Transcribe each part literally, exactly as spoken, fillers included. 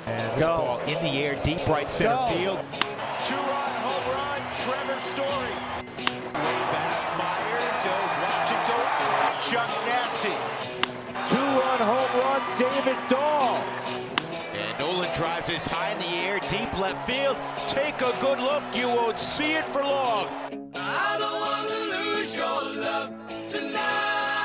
And this Go. ball in the air, deep right center Go. field. Two-run home run, Trevor Story. Way back, Myers, he'll watch it go out. Chuck Nasty. Two-run home run, David Dahl. And Nolan drives this high in the air, deep left field. Take a good look, you won't see it for long. I don't want to lose your love tonight.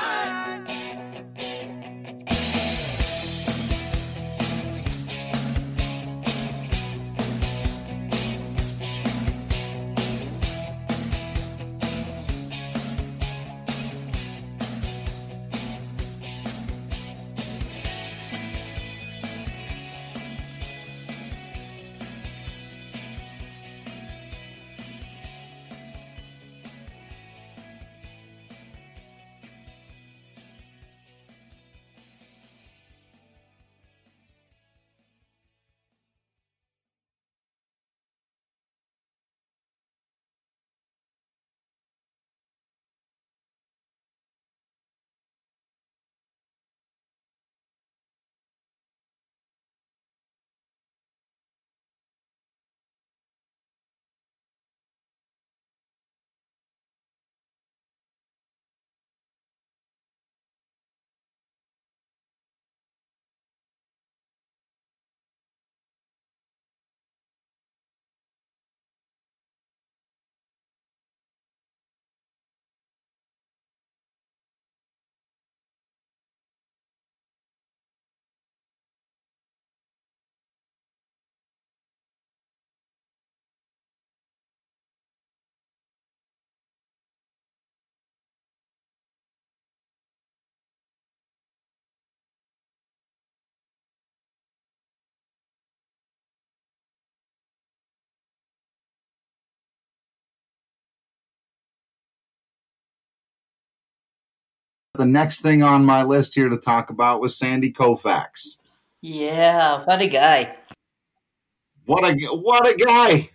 The next thing on my list here to talk about was Sandy Koufax. Yeah, what a guy. What a what a guy.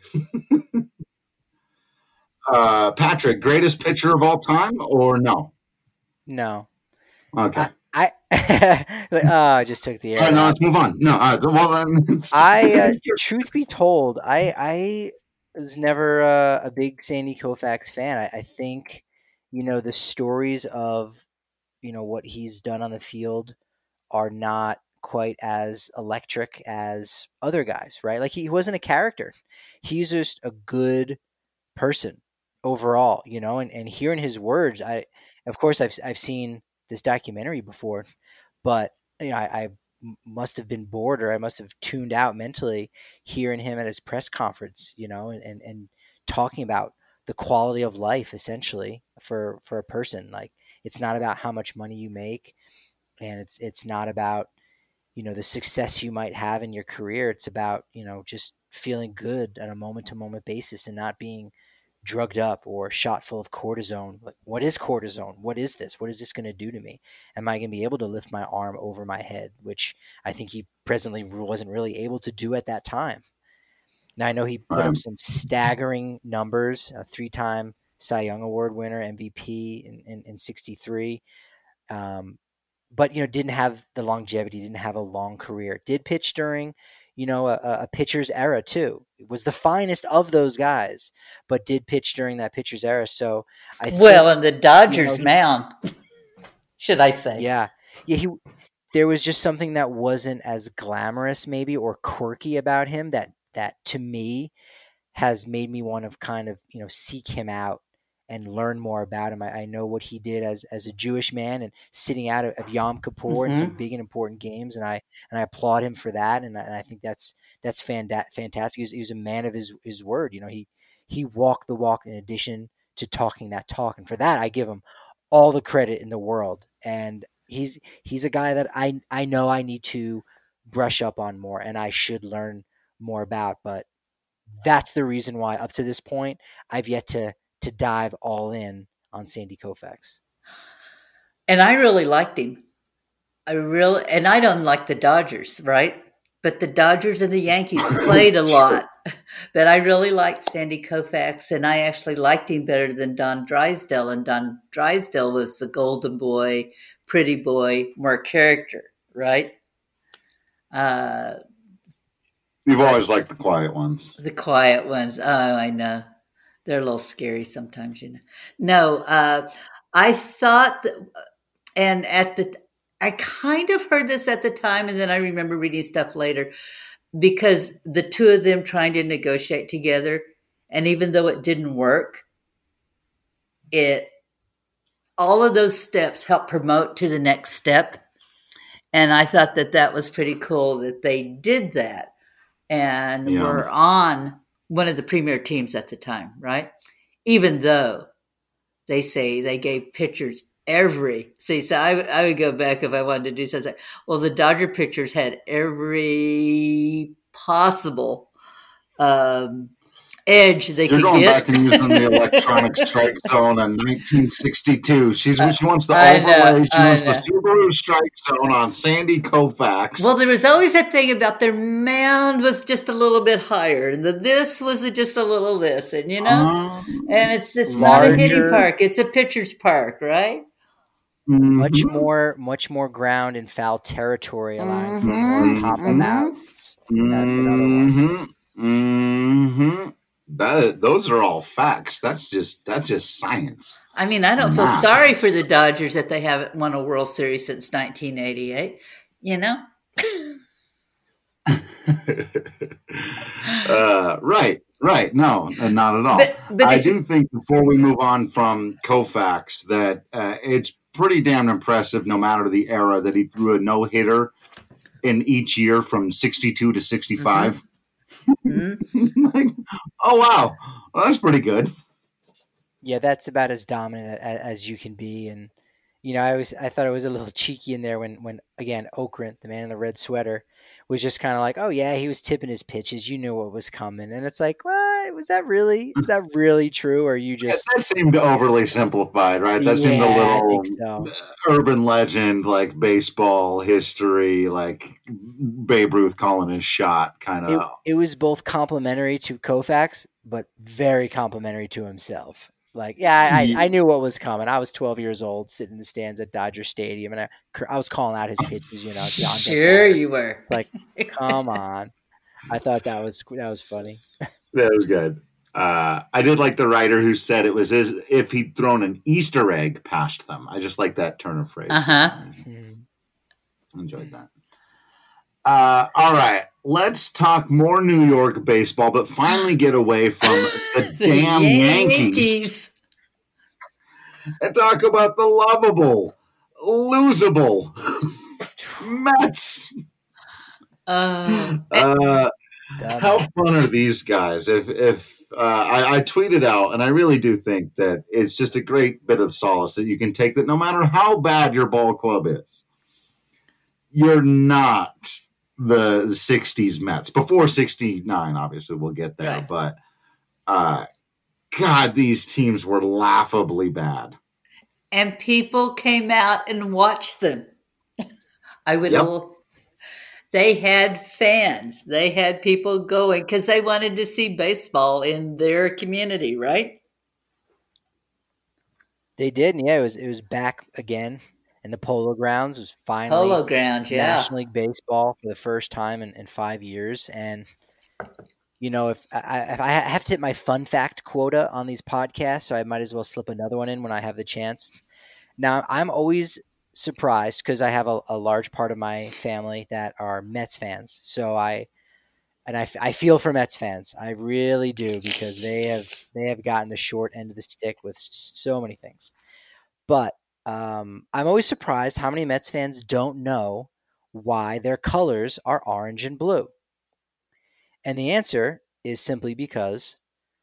uh, Patrick, greatest pitcher of all time or no? No. Okay. I I, oh, I just took the air. All right, no, let's move on. No, uh, well then. I uh, truth be told, I I was never uh, a big Sandy Koufax fan. I, I think, you know, the stories of, you know, what he's done on the field are not quite as electric as other guys, right? Like he wasn't a character. He's just a good person overall, you know, and, and hearing his words, I, of course I've, I've seen this documentary before, but you know, I, I must have been bored or I must have tuned out mentally hearing him at his press conference, you know, and, and, and talking about the quality of life essentially for, for a person. Like, it's not about how much money you make, and it's it's not about, you know, the success you might have in your career. It's about, you know, just feeling good on a moment-to-moment basis and not being drugged up or shot full of cortisone. Like, what is cortisone? What is this? What is this going to do to me? Am I going to be able to lift my arm over my head, which I think he presently wasn't really able to do at that time. Now, I know he put up some staggering numbers, a three-time Cy Young Award winner, M V P in, in, in sixty-three. Um, but, you know, didn't have the longevity, didn't have a long career. Did pitch during, you know, a, a pitcher's era too. It was the finest of those guys, but did pitch during that pitcher's era. So I think, well, and the Dodgers you know, mound, should I say? Yeah, yeah. He there was just something that wasn't as glamorous, maybe, or quirky about him that that to me has made me want to kind of, you know, seek him out and learn more about him. I, I know what he did as as a Jewish man and sitting out of, of Yom Kippur mm-hmm. in some big and important games, and I and I applaud him for that. And I, and I think that's that's fanda- fantastic. He was, he was a man of his his word. You know, he he walked the walk in addition to talking that talk, and for that I give him all the credit in the world. And he's he's a guy that I I know I need to brush up on more, and I should learn more about. But that's the reason why up to this point I've yet to to dive all in on Sandy Koufax. And I really liked him. I really, and I don't like the Dodgers, right? But the Dodgers and the Yankees played a lot. But I really liked Sandy Koufax, and I actually liked him better than Don Drysdale. And Don Drysdale was the golden boy, pretty boy, more character, right? Uh, You've always liked the quiet ones. The quiet ones. Oh, I know. They're a little scary sometimes, you know. No, uh, I thought, that, and at the, I kind of heard this at the time, and then I remember reading stuff later, because the two of them trying to negotiate together, and even though it didn't work, it, all of those steps helped promote to the next step. And I thought that that was pretty cool that they did that and Yeah. were on one of the premier teams at the time, right? Even though they say they gave pitchers every, see, so I, I would go back if I wanted to do something. Well, the Dodger pitchers had every possible um, edge they You're could going get. back and using the electronic strike zone in nineteen sixty-two. She's she wants the I know, overlay. She I wants the know. Subaru strike zone on Sandy Koufax. Well, there was always that thing about their mound was just a little bit higher, and the this was just a little this, and you know, Um, and it's it's not a hitting Larger. park; it's a pitcher's park, right? Much mhm, more, much more ground and foul territory allowing for Mhm. more pop Mhm. outs. That's another one. mhm, mhm. That those are all facts. That's just that's just science. I mean, I don't feel Math. sorry for the Dodgers that they haven't won a World Series since nineteen eighty-eight. You know, uh, right, right. No, uh, not at all. but but I if, do think before we move on from Koufax that uh, it's pretty damn impressive, no matter the era, that he threw a no hitter in each year from sixty-two to sixty-five. Mhm. Like, oh wow, well, that's pretty good. Yeah, that's about as dominant a- a- as you can be. And you know, I was I thought it was a little cheeky in there when when again Okrent, the man in the red sweater, was just kind of like, oh yeah, he was tipping his pitches. You knew what was coming, and it's like, what was that really? Is that really true? Or are you Yeah, just that seemed overly simplified, right? That seemed a yeah, I little think so. urban legend, like baseball history, like Babe Ruth calling his shot, kind It of. it was both complimentary to Koufax, but very complimentary to himself. Like, yeah, I, I knew what was coming. I was twelve years old, sitting in the stands at Dodger Stadium, and I, I was calling out his pitches. You know, John sure Beck. you were. It's like, come on. I thought that was that was funny. That was good. Uh, I did like the writer who said it was as if he'd thrown an Easter egg past them. I just like that turn of phrase. Uh huh. Mhm. Enjoyed that. Uh, all right, let's talk more New York baseball, but finally get away from the damn Yankees and talk about the lovable, losable Mets. Oh, Uh, Dumb. how fun are these guys? If if uh, I, I tweeted out, and I really do think that it's just a great bit of solace that you can take that no matter how bad your ball club is, you're not the sixties Mets. Before sixty-nine, obviously, we'll get there. Right. But, uh, God, these teams were laughably bad. and people came out and watched them. I would. Yep. l- They had fans. They had people going because they wanted to see baseball in their community, right? They did, and yeah, it was it was back again in the Polo Grounds. It was finally Polo grounds, yeah. National League Baseball for the first time in, in five years. And you know, if I, if I have to hit my fun fact quota on these podcasts, so I might as well slip another one in when I have the chance. Now, I'm always surprised because I have a, a large part of my family that are Mets fans. So I and I, f- I feel for Mets fans. I really do, because they have they have gotten the short end of the stick with so many things. But um, I'm always surprised how many Mets fans don't know why their colors are orange and blue. And the answer is simply because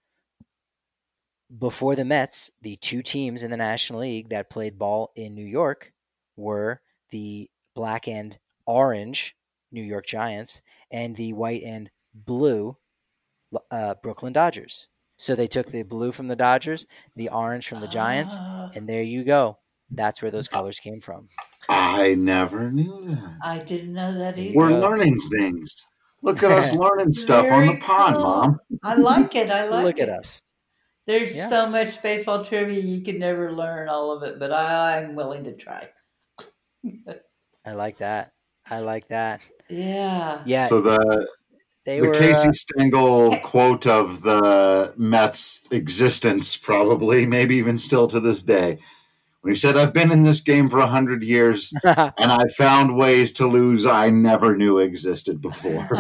before the Mets, the two teams in the National League that played ball in New York were the black and orange New York Giants and the white and blue uh, Brooklyn Dodgers. So they took the blue from the Dodgers, the orange from the Giants, Ah, and there you go. That's where those colors came from. I never knew that. I didn't know that either. We're Yeah. learning things. Look at us learning stuff on the Very pod, cool. Mom. I like it. I like Look it. at us. There's Yeah. so much baseball trivia you can never learn all of it, but I, I'm willing to try. I like that. I like that. Yeah. Yeah, So the They the were Casey uh, Stengel quote of the Mets' existence, probably, maybe even still to this day, when he said, "I've been in this game for a hundred years, and I found ways to lose I never knew existed before."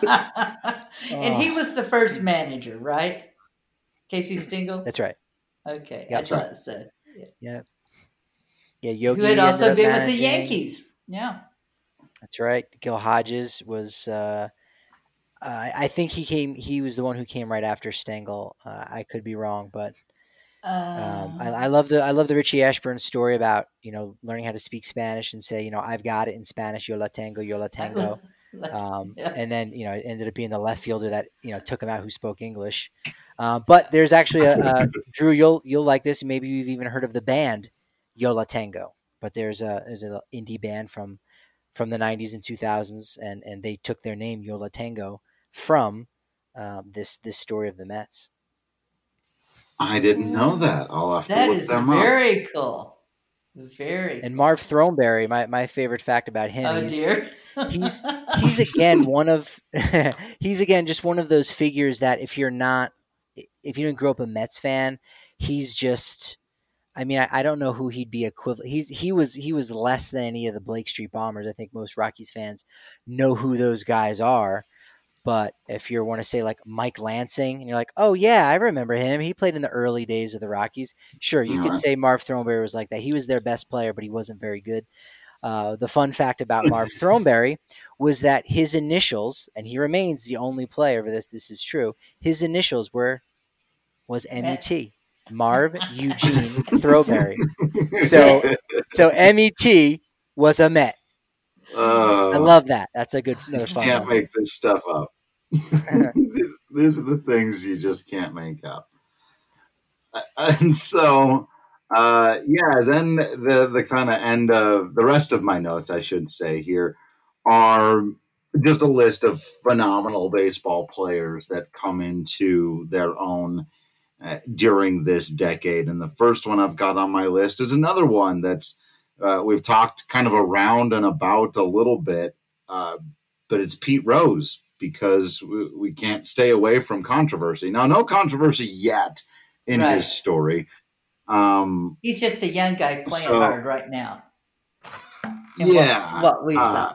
And he was the first manager, right? Casey Stengel? That's right. Okay, Yep. I thought so. Yeah. Yeah. Yeah, Yogi Who had ended also up been with managing. the Yankees. Yeah. That's right. Gil Hodges was. Uh, uh, I think he came. He was the one who came right after Stengel. Uh, I could be wrong, but um, I, I love the I love the Richie Ashburn story about you know learning how to speak Spanish and say you know I've got it in Spanish. Yo la tengo, yo la tengo. Um, Yeah. And then you know it ended up being the left fielder that you know took him out who spoke English. Uh, but there's actually a, a Drew. You'll you'll like this. Maybe you've even heard of the band Yo La Tengo. But there's a there's an indie band from from the nineties and two thousands, and and they took their name Yo La Tengo from um, this this story of the Mets. I didn't know that. I'll have to That look is them up. very cool. Very. And Marv Throneberry, my, my favorite fact about him, Oh he's, dear. he's he's again one of he's again just one of those figures that if you're not if you didn't grow up a Mets fan, he's just I mean, I, I don't know who he'd be equivalent. He's he was he was less than any of the Blake Street Bombers. I think most Rockies fans know who those guys are. But if you want to say like Mike Lansing, and you're like, oh yeah, I remember him. He played in the early days of the Rockies. Sure, you All could right. say Marv Throneberry was like that. He was their best player, but he wasn't very good. Uh, the fun fact about Marv Throneberry was that his initials, and he remains the only player for this. This is true. His initials were was M E T, Marv Eugene Throneberry. So, so M E T was a Met. Uh, I love that. That's a good another you fun can't one. make this stuff up. These are the things you just can't make up. And so, uh, yeah, then the the kind of end of the rest of my notes, I should say here, are just a list of phenomenal baseball players that come into their own uh, during this decade. And the first one I've got on my list is another one that's uh, we've talked kind of around and about a little bit, uh, but it's Pete Rose, because we, we can't stay away from controversy. Now, no controversy yet in Right. his story. Um, He's just a young guy playing So- hard right now. And yeah. What, what we uh, saw.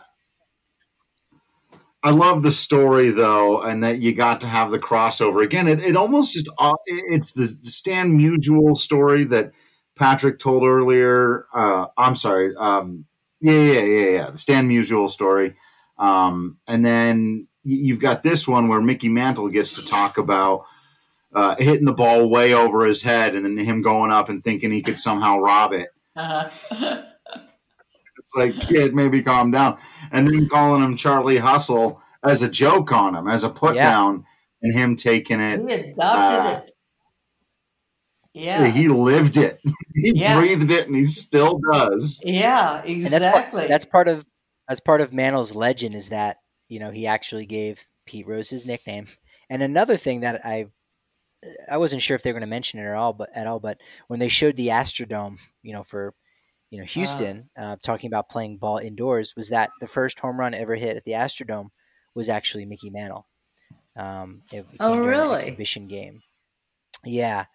I love the story though, and that you got to have the crossover again. It, it almost just uh, it's the Stan Musial story that Patrick told earlier. Uh, I'm sorry. Um, yeah, yeah, yeah, yeah. The Stan Musial story, um, and then y- you've got this one where Mickey Mantle gets to talk about uh, hitting the ball way over his head, and then him going up and thinking he could somehow rob it. Uh-huh. It's like, kid, maybe calm down. And then calling him Charlie Hustle as a joke on him, as a put Yeah. down, and him taking it. He adopted uh, it. Yeah. He lived it. He Yeah. breathed it, and he still does. yeah, And that's part, exactly. that's part of that's part of Mantle's legend is that you know he actually gave Pete Rose his nickname. And another thing that I I wasn't sure if they were going to mention it at all, but at all, but when they showed the Astrodome, you know, for you know Houston, uh, talking about playing ball indoors, was that the first home run ever hit at the Astrodome was actually Mickey Mantle. Um, it Oh, came during an really? exhibition game. Yeah,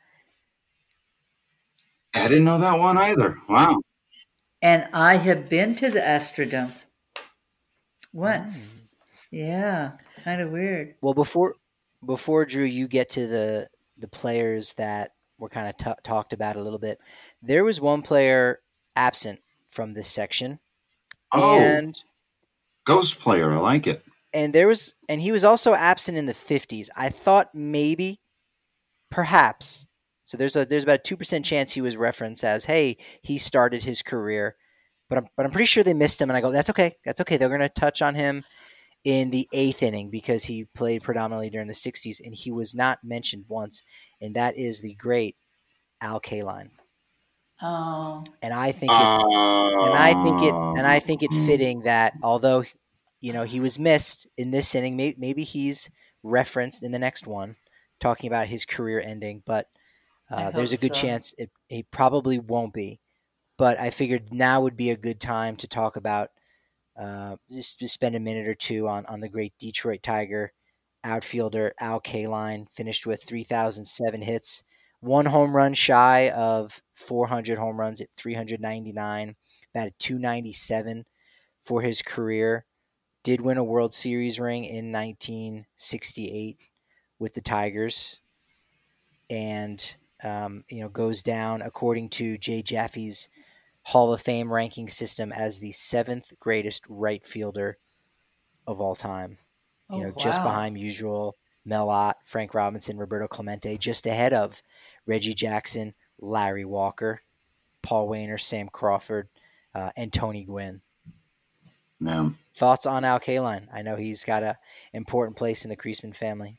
I didn't know that one either. Wow. And I have been to the Astrodome once. Mm. Yeah, kind of weird. Well, before before Drew, you get to the the players that were kind of t- talked about a little bit. There was one player absent from this section, Oh, and Ghost player. I like it. and there was and he was also absent in the fifties. I thought maybe, perhaps. So there's a there's about a two percent chance he was referenced as, hey, he started his career, but I'm but I'm pretty sure they missed him. And I go, that's okay, that's okay. They're going to touch on him in the eighth inning because he played predominantly during the sixties, and he was not mentioned once, and that is the great Al Kaline. Oh, And I think it, Uh, and I think it and I think it fitting that although you know he was missed in this inning, maybe, maybe he's referenced in the next one, talking about his career ending. But I uh, there's a hope good so. chance it, he probably won't be. But I figured now would be a good time to talk about uh, just, just spend a minute or two on on the great Detroit Tiger, outfielder Al Kaline finished with three thousand seven hits, one home run shy of four hundred home runs at three hundred ninety-nine, batted two ninety-seven for his career. Did win a World Series ring in nineteen sixty-eight with the Tigers, and um, you know goes down according to Jay Jaffe's Hall of Fame ranking system as the seventh greatest right fielder of all time. Oh, You know, wow. just behind usual Mel Ott, Frank Robinson, Roberto Clemente, just ahead of Reggie Jackson, Larry Walker, Paul Wainer, Sam Crawford, uh, and Tony Gwynn. Yeah. Thoughts on Al Kaline? I know he's got an important place in the Kriesman family.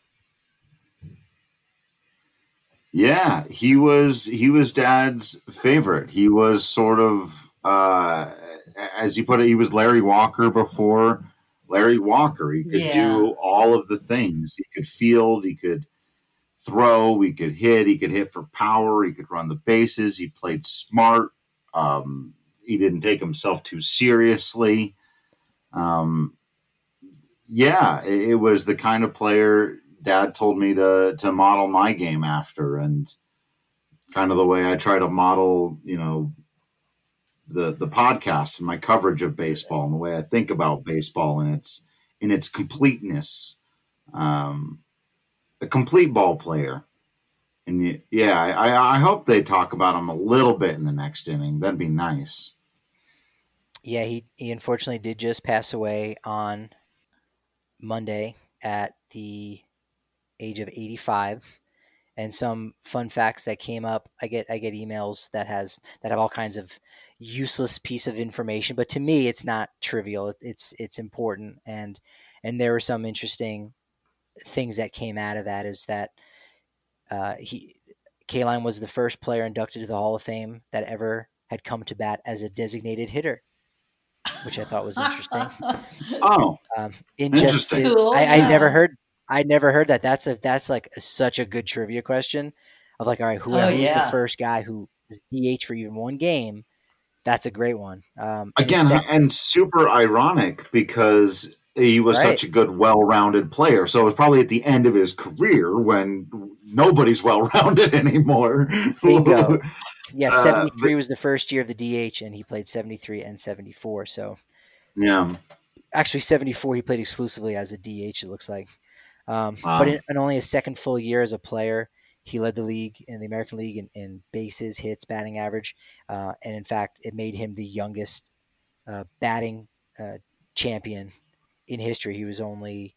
Yeah, he was he was Dad's favorite. He was sort of, uh, as you put it, he was Larry Walker before Larry Walker. He could Yeah. do all of the things. He could field, he could throw, he could hit, he could hit for power, he could run the bases. He played smart. Um, he didn't take himself too seriously. Um, yeah, it, it was the kind of player Dad told me to to model my game after, and kind of the way I try to model, you know, the the podcast and my coverage of baseball and the way I think about baseball and its in its completeness. Um, a complete ball player, and yeah, I, I hope they talk about him a little bit in the next inning. That'd be nice. Yeah, he, he unfortunately did just pass away on Monday at the age of eighty-five. And some fun facts that came up. I get I get emails that has that have all kinds of useless piece of information, but to me, it's not trivial. It's it's important, and and there were some interesting things that came out of that. Is that uh, he Kaline was the first player inducted to the Hall of Fame that ever had come to bat as a designated hitter, which I thought was interesting. Oh, Um, in Interesting. just Cool, I, I yeah. never heard I never heard that. That's a that's like a, such a good trivia question. Of like, all right, who, Oh, who's yeah. the first guy who was D H for even one game? That's a great one. Um, and his again, sec- and super ironic because he was Right. such a good, well-rounded player. So it was probably at the end of his career when nobody's well-rounded anymore. Bingo. Yeah, Uh, seventy-three was the first year of the D H, and he played seventy-three and seventy-four. So Yeah. actually, seventy-four he played exclusively as a D H. It looks like, um, Wow. but in, in only his second full year as a player, he led the league in the American League in, in bases, hits, batting average, uh, and in fact, it made him the youngest uh, batting uh, champion in history. He was only,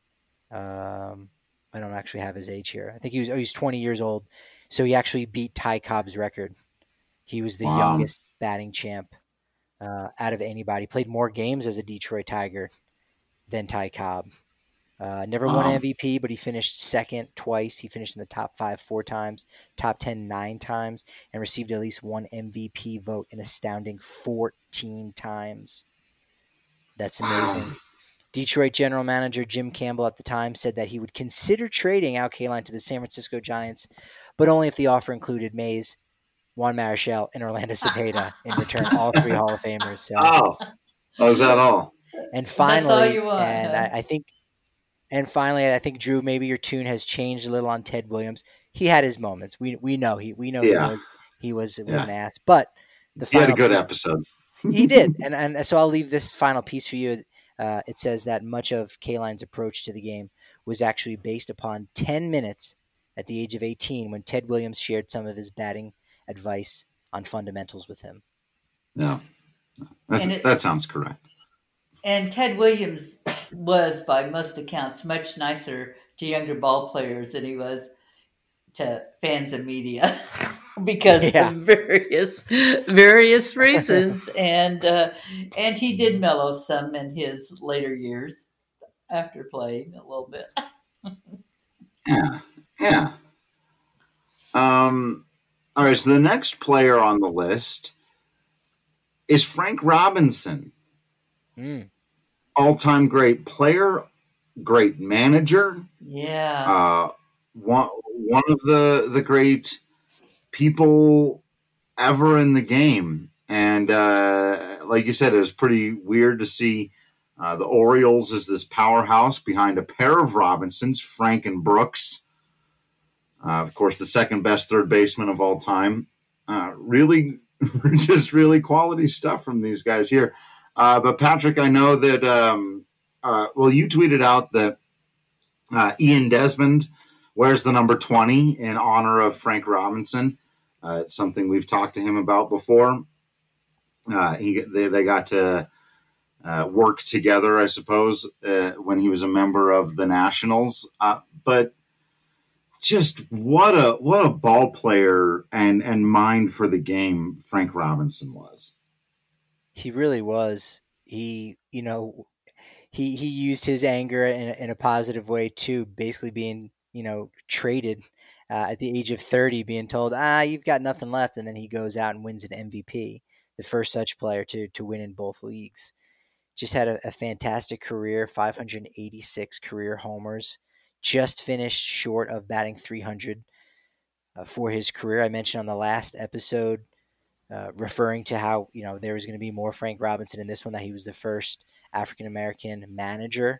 um, I don't actually have his age here. I think he was oh, he's twenty years old, so he actually beat Ty Cobb's record. He was the Wow. youngest batting champ uh, out of anybody. Played more games as a Detroit Tiger than Ty Cobb. Uh, never won Wow. M V P, but he finished second twice. He finished in the top five four times, top ten nine times, and received at least one M V P vote an astounding fourteen times. That's amazing. Detroit general manager Jim Campbell at the time said that he would consider trading Al Kaline to the San Francisco Giants, but only if the offer included Mays, Juan Marichal, and Orlando Cepeda in return, all three Hall of Famers. So, Oh, was that all? and That's all finally, you want, and huh? I, I think, and finally, I think Drew, maybe your tune has changed a little on Ted Williams. He had his moments. We we know he we know Yeah. he was he was, was Yeah. an ass, but the He had a final good piece- episode. he did, and and so I'll leave this final piece for you. Uh, it says that much of Kaline's approach to the game was actually based upon ten minutes at the age of eighteen when Ted Williams shared some of his batting advice on fundamentals with him. Yeah. That's, And it- that sounds correct. And Ted Williams was, by most accounts, much nicer to younger ball players than he was to fans and media because Yeah. of various various reasons. and uh, and he did mellow some in his later years after playing a little bit. Yeah. Yeah. Um, all right. So the next player on the list is Frank Robinson. Mm. All-time great player, great manager, Yeah. uh, one one of the the great people ever in the game. And uh, like you said, it was pretty weird to see Uh, the Orioles is this powerhouse behind a pair of Robinsons, Frank and Brooks. Uh, of course, the second best third baseman of all time. Uh, really, just really quality stuff from these guys here. Uh, but Patrick, I know that, um, uh, well, you tweeted out that uh, Ian Desmond wears the number twenty in honor of Frank Robinson. Uh, it's something we've talked to him about before. Uh, he, they, they got to uh, work together, I suppose, uh, when he was a member of the Nationals. Uh, but just what a what a ball player and and mind for the game Frank Robinson was. He really was. He, you know, he he used his anger in a, in a positive way too, basically being, you know, traded uh, at the age of thirty, being told, ah, you've got nothing left, and then he goes out and wins an M V P, the first such player to to win in both leagues. Just had a, a fantastic career, five hundred eighty-six career homers, just finished short of batting three hundred uh, for his career. I mentioned on the last episode, uh, referring to how, you know, there was going to be more Frank Robinson in this one, that he was the first African-American manager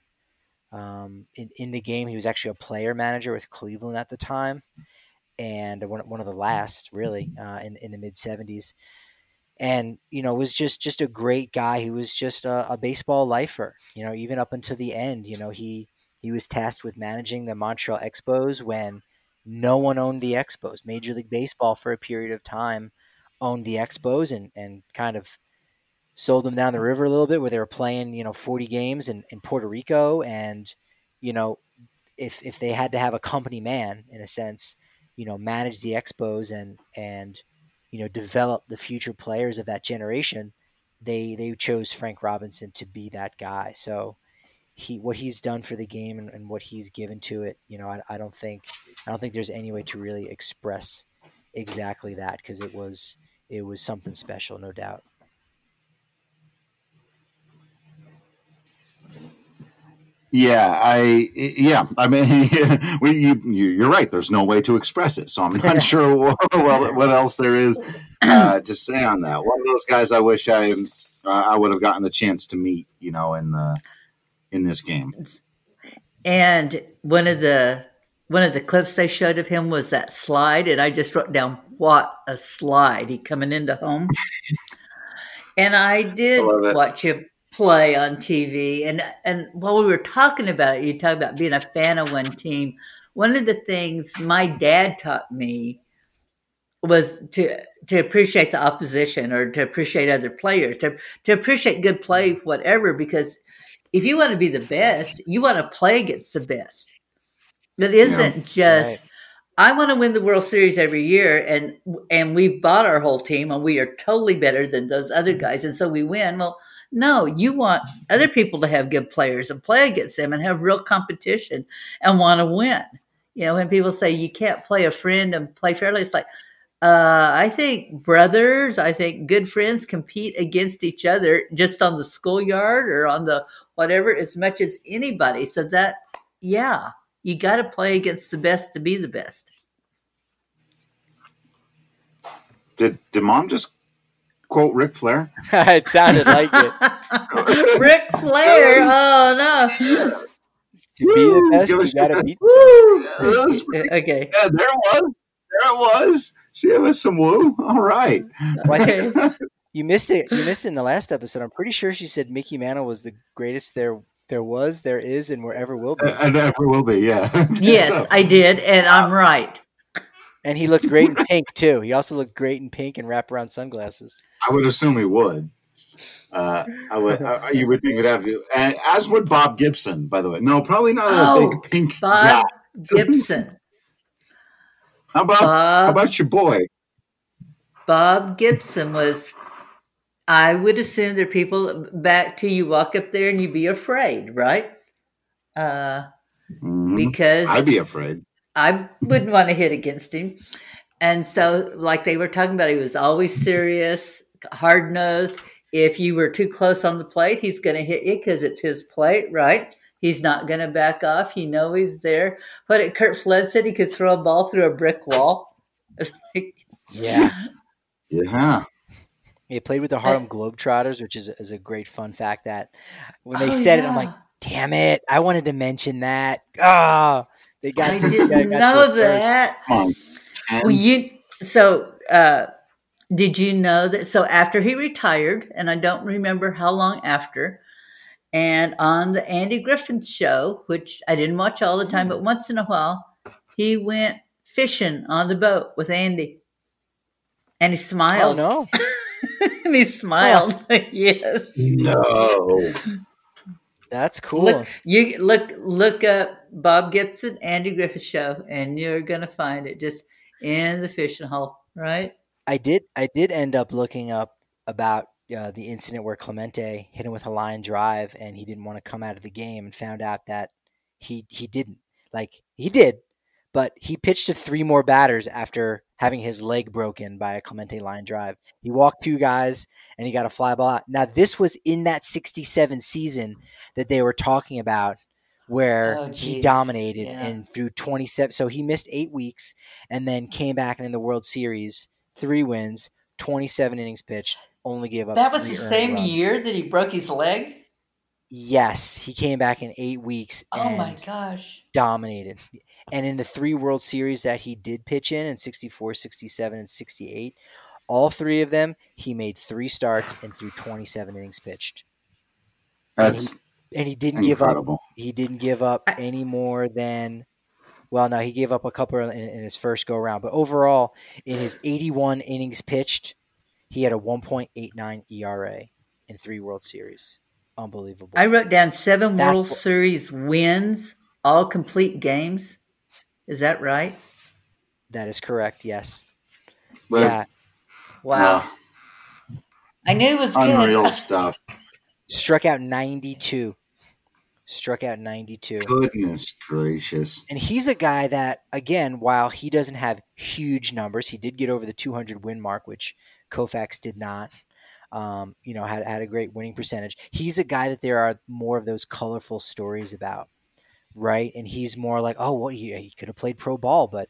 um, in, in the game. He was actually a player manager with Cleveland at the time, and one, one of the last, really, uh, in, in the mid-seventies. And, you know, was just, just a great guy. He was just a, a baseball lifer, you know, even up until the end. You know, he he was tasked with managing the Montreal Expos when no one owned the Expos. Major League Baseball for a period of time owned the Expos and, and kind of sold them down the river a little bit, where they were playing, you know, forty games in, in Puerto Rico. And, you know, if if they had to have a company man, in a sense, you know, manage the Expos and and you know, develop the future players of that generation, they they chose Frank Robinson to be that guy. So he what he's done for the game and, and what he's given to it, you know, I, I don't think I don't think there's any way to really express exactly that, because it was it was something special, no doubt. Yeah, I yeah, I mean, we, you, you're right. There's no way to express it, so I'm not sure what, well, what else there is uh, to say on that. One of those guys I wish I uh, I would have gotten the chance to meet, you know, in the in this game. And one of the one of the clips they showed of him was that slide, and I just wrote down, "What a slide!" He coming into home, and I did I watch him play on T V. And and while we were talking about it, you talk about being a fan of one team. One of the things my dad taught me was to to appreciate the opposition, or to appreciate other players, to to appreciate good play, whatever, because if you want to be the best, you want to play against the best. It isn't yeah, just, right. I want to win the World Series every year, and and we bought our whole team, and we are totally better than those other guys, and so we win. Well, no, you want other people to have good players and play against them and have real competition and want to win. You know, when people say you can't play a friend and play fairly, it's like, uh, I think brothers, I think good friends compete against each other just on the schoolyard or on the whatever as much as anybody. So that, yeah, you got to play against the best to be the best. Did, did Mom just quote Ric Flair? It sounded like it. Ric Flair. Oh no! To be the best, you gotta beat the best. Okay. Yeah, there it was. There it was. She was some woo. All right. Well, I think you missed it. You missed it in the last episode. I'm pretty sure she said Mickey Mantle was the greatest there there was, there is, and wherever will be. And ever will be. Yeah. Yes, so. I did, and I'm right. And he looked great in pink too. He also looked great in pink and wraparound sunglasses. I would assume he would. Uh, I would. Uh, you would think it would have to. And as would Bob Gibson, by the way. No, probably not oh, a big pink Bob guy. Gibson. How about Bob, how about your boy? Bob Gibson was. I would assume there are people back to you walk up there and you'd be afraid, right? Uh, mm-hmm. Because I'd be afraid. I wouldn't want to hit against him. And so, like they were talking about, he was always serious, hard-nosed. If you were too close on the plate, he's going to hit you because it's his plate, right? He's not going to back off. You know he's there. What did Kurt Flood said? He could throw a ball through a brick wall. Yeah. Yeah. He played with the Harlem Globetrotters, which is, is a great fun fact that when they Oh, said yeah. it, I'm like, damn it. I wanted to mention that. Ah, they got I to, didn't got, got know to it first. that. Come on. Well, you so uh, did you know that? So after he retired, and I don't remember how long after, and on the Andy Griffith Show, which I didn't watch all the time, but once in a while, he went fishing on the boat with Andy, and he Oh, smiled. no. And he smiled. Yes. No. That's cool. Look, you look look up Bob Gibson, Andy Griffith Show, and you're gonna find it just in the fishing hole, right? I did I did end up looking up about uh, the incident where Clemente hit him with a line drive and he didn't want to come out of the game, and found out that he he didn't. Like, he did, but he pitched to three more batters after having his leg broken by a Clemente line drive. He walked two guys and he got a fly ball out. Now, this was in that sixty-seven season that they were talking about, where Oh, he geez. dominated Yeah. and threw twenty-seven. So he missed eight weeks and then came back, and in the World Series, three wins, twenty-seven innings pitched, only gave up That was three the earned same runs. year that he broke his leg. Yes, he came back in eight weeks Oh and my gosh! dominated. And in the three World Series that he did pitch in, in sixty-four, sixty-seven, and sixty-eight, all three of them, he made three starts and threw twenty-seven innings pitched. That's And he didn't give up. incredible. He didn't give up I- any more than, well, no, he gave up a couple in, in his first go round. But overall, in his eighty-one innings pitched, he had a one point eight nine E R A in three World Series. Unbelievable. I wrote down seven That's World what- Series wins, all complete games. Is that right? That is correct. Yes. But, Yeah. Wow! uh, I knew it was unreal good. stuff. Struck out ninety-two. Struck out ninety-two. Goodness gracious. And he's a guy that, again, while he doesn't have huge numbers, he did get over the two hundred win mark, which Koufax did not. Um, you know, had had a great winning percentage. He's a guy that there are more of those colorful stories about, right? And he's more like, oh, well, he, he could have played pro ball, but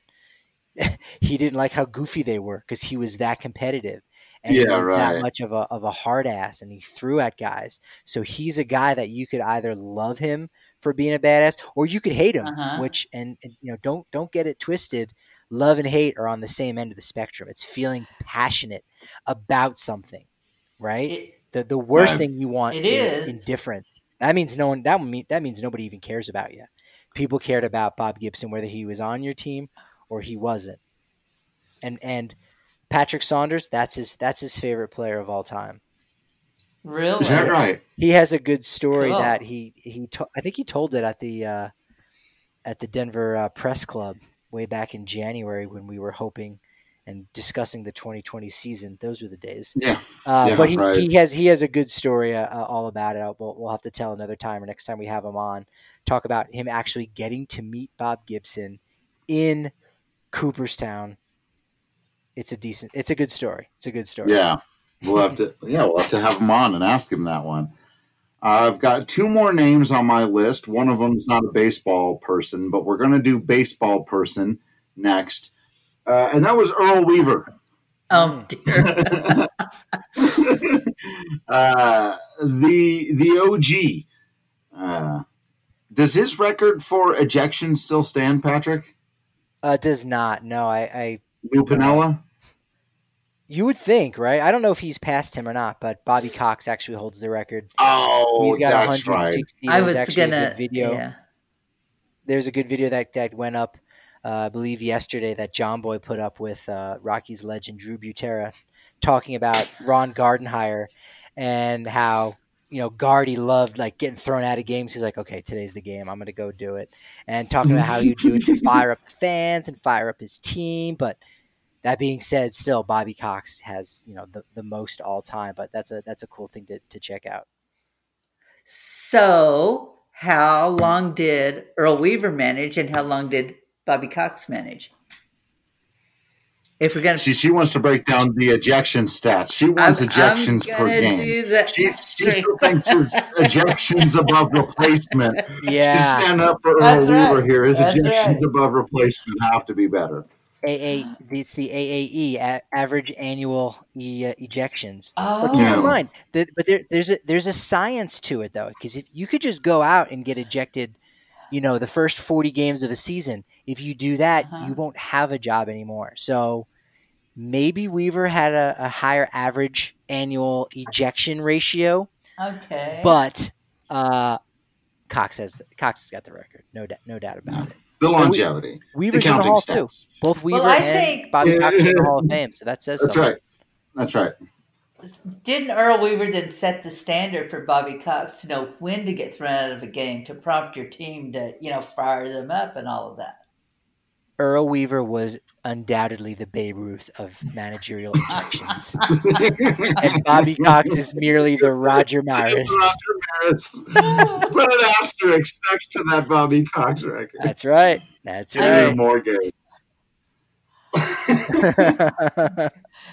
he didn't like how goofy they were because he was that competitive. And he Yeah, was right. that much of a of a hard ass, and he threw at guys. So he's a guy that you could either love him for being a badass, or you could hate him. Uh-huh. Which and, and you know, don't don't get it twisted. Love and hate are on the same end of the spectrum. It's feeling passionate about something, right? It- the the worst Right. thing you want It is, is. indifference. That means no one. That mean that means nobody even cares about you. People cared about Bob Gibson whether he was on your team or he wasn't. And and Patrick Saunders, that's his that's his favorite player of all time. Really? Is that right? He has a good story Cool. that he he to, I think he told it at the uh, at the Denver uh, Press Club way back in January when we were hoping and discussing the twenty twenty season. Those were the days. Yeah. Uh, Yeah, but he, right. he has he has a good story uh, uh, all about it. We'll, we'll have to tell another time or next time we have him on. Talk about him actually getting to meet Bob Gibson in Cooperstown. It's a decent. It's a good story. It's a good story. Yeah. We'll have to yeah, we'll have to have him on and ask him that one. I've got two more names on my list. One of them's not a baseball person, but we're going to do baseball person next. Uh, and that was Earl Weaver. Oh dear. uh, the the O G. Uh, does his record for ejection still stand, Patrick? Uh, does not. No, I, I. Lou Piniella? You would think, right? I don't know if he's passed him or not, but Bobby Cox actually holds the record. Oh, He's got that's right. one hundred sixty. I There's was actually a gonna. good video. Yeah. There's a good video that, that went up, uh, I believe yesterday, that John Boy put up with uh, Rockies legend Drew Butera talking about Ron Gardenhire and how, you know, Gardy loved like getting thrown out of games. He's like, okay, today's the game. I'm going to go do it. And talking about how you do it to fire up the fans and fire up his team. But that being said, still Bobby Cox has, you know, the, the most all time. But that's a that's a cool thing to, to check out. So, how long did Earl Weaver manage, and how long did Bobby Cox manage? If we're gonna, See, she wants to break down the ejection stats. She wants I'm- ejections I'm per gonna game. do that. She, she still thinks his ejections above replacement. Yeah. To stand up for Earl That's Weaver right. here. His That's ejections right. above replacement have to be better. A A. It's the A A E, a- average annual e, uh, ejections. Oh. But keep Yeah. in mind that, but there, there's a there's a science to it though, because if you could just go out and get ejected, you know, the first forty games of a season, if you do that, Uh-huh. you won't have a job anymore. So maybe Weaver had a, a higher average annual ejection ratio, Okay. but uh, Cox has the, Cox has got the record, no doubt, no doubt about it. The longevity. Weaver's the in the counting Hall stats. too. Both Weaver Well, I and think- Bobby Yeah, Cox are in yeah, the yeah. Hall of Fame, so that says That's something. right. That's right. Didn't Earl Weaver then set the standard for Bobby Cox to know when to get thrown out of a game to prompt your team to, you know, fire them up and all of that? Earl Weaver was undoubtedly the Babe Ruth of managerial ejections. And Bobby Cox is merely the Roger Maris. Roger Maris. Put an asterisk next to that Bobby Cox record. That's right. That's Even right. more games. And,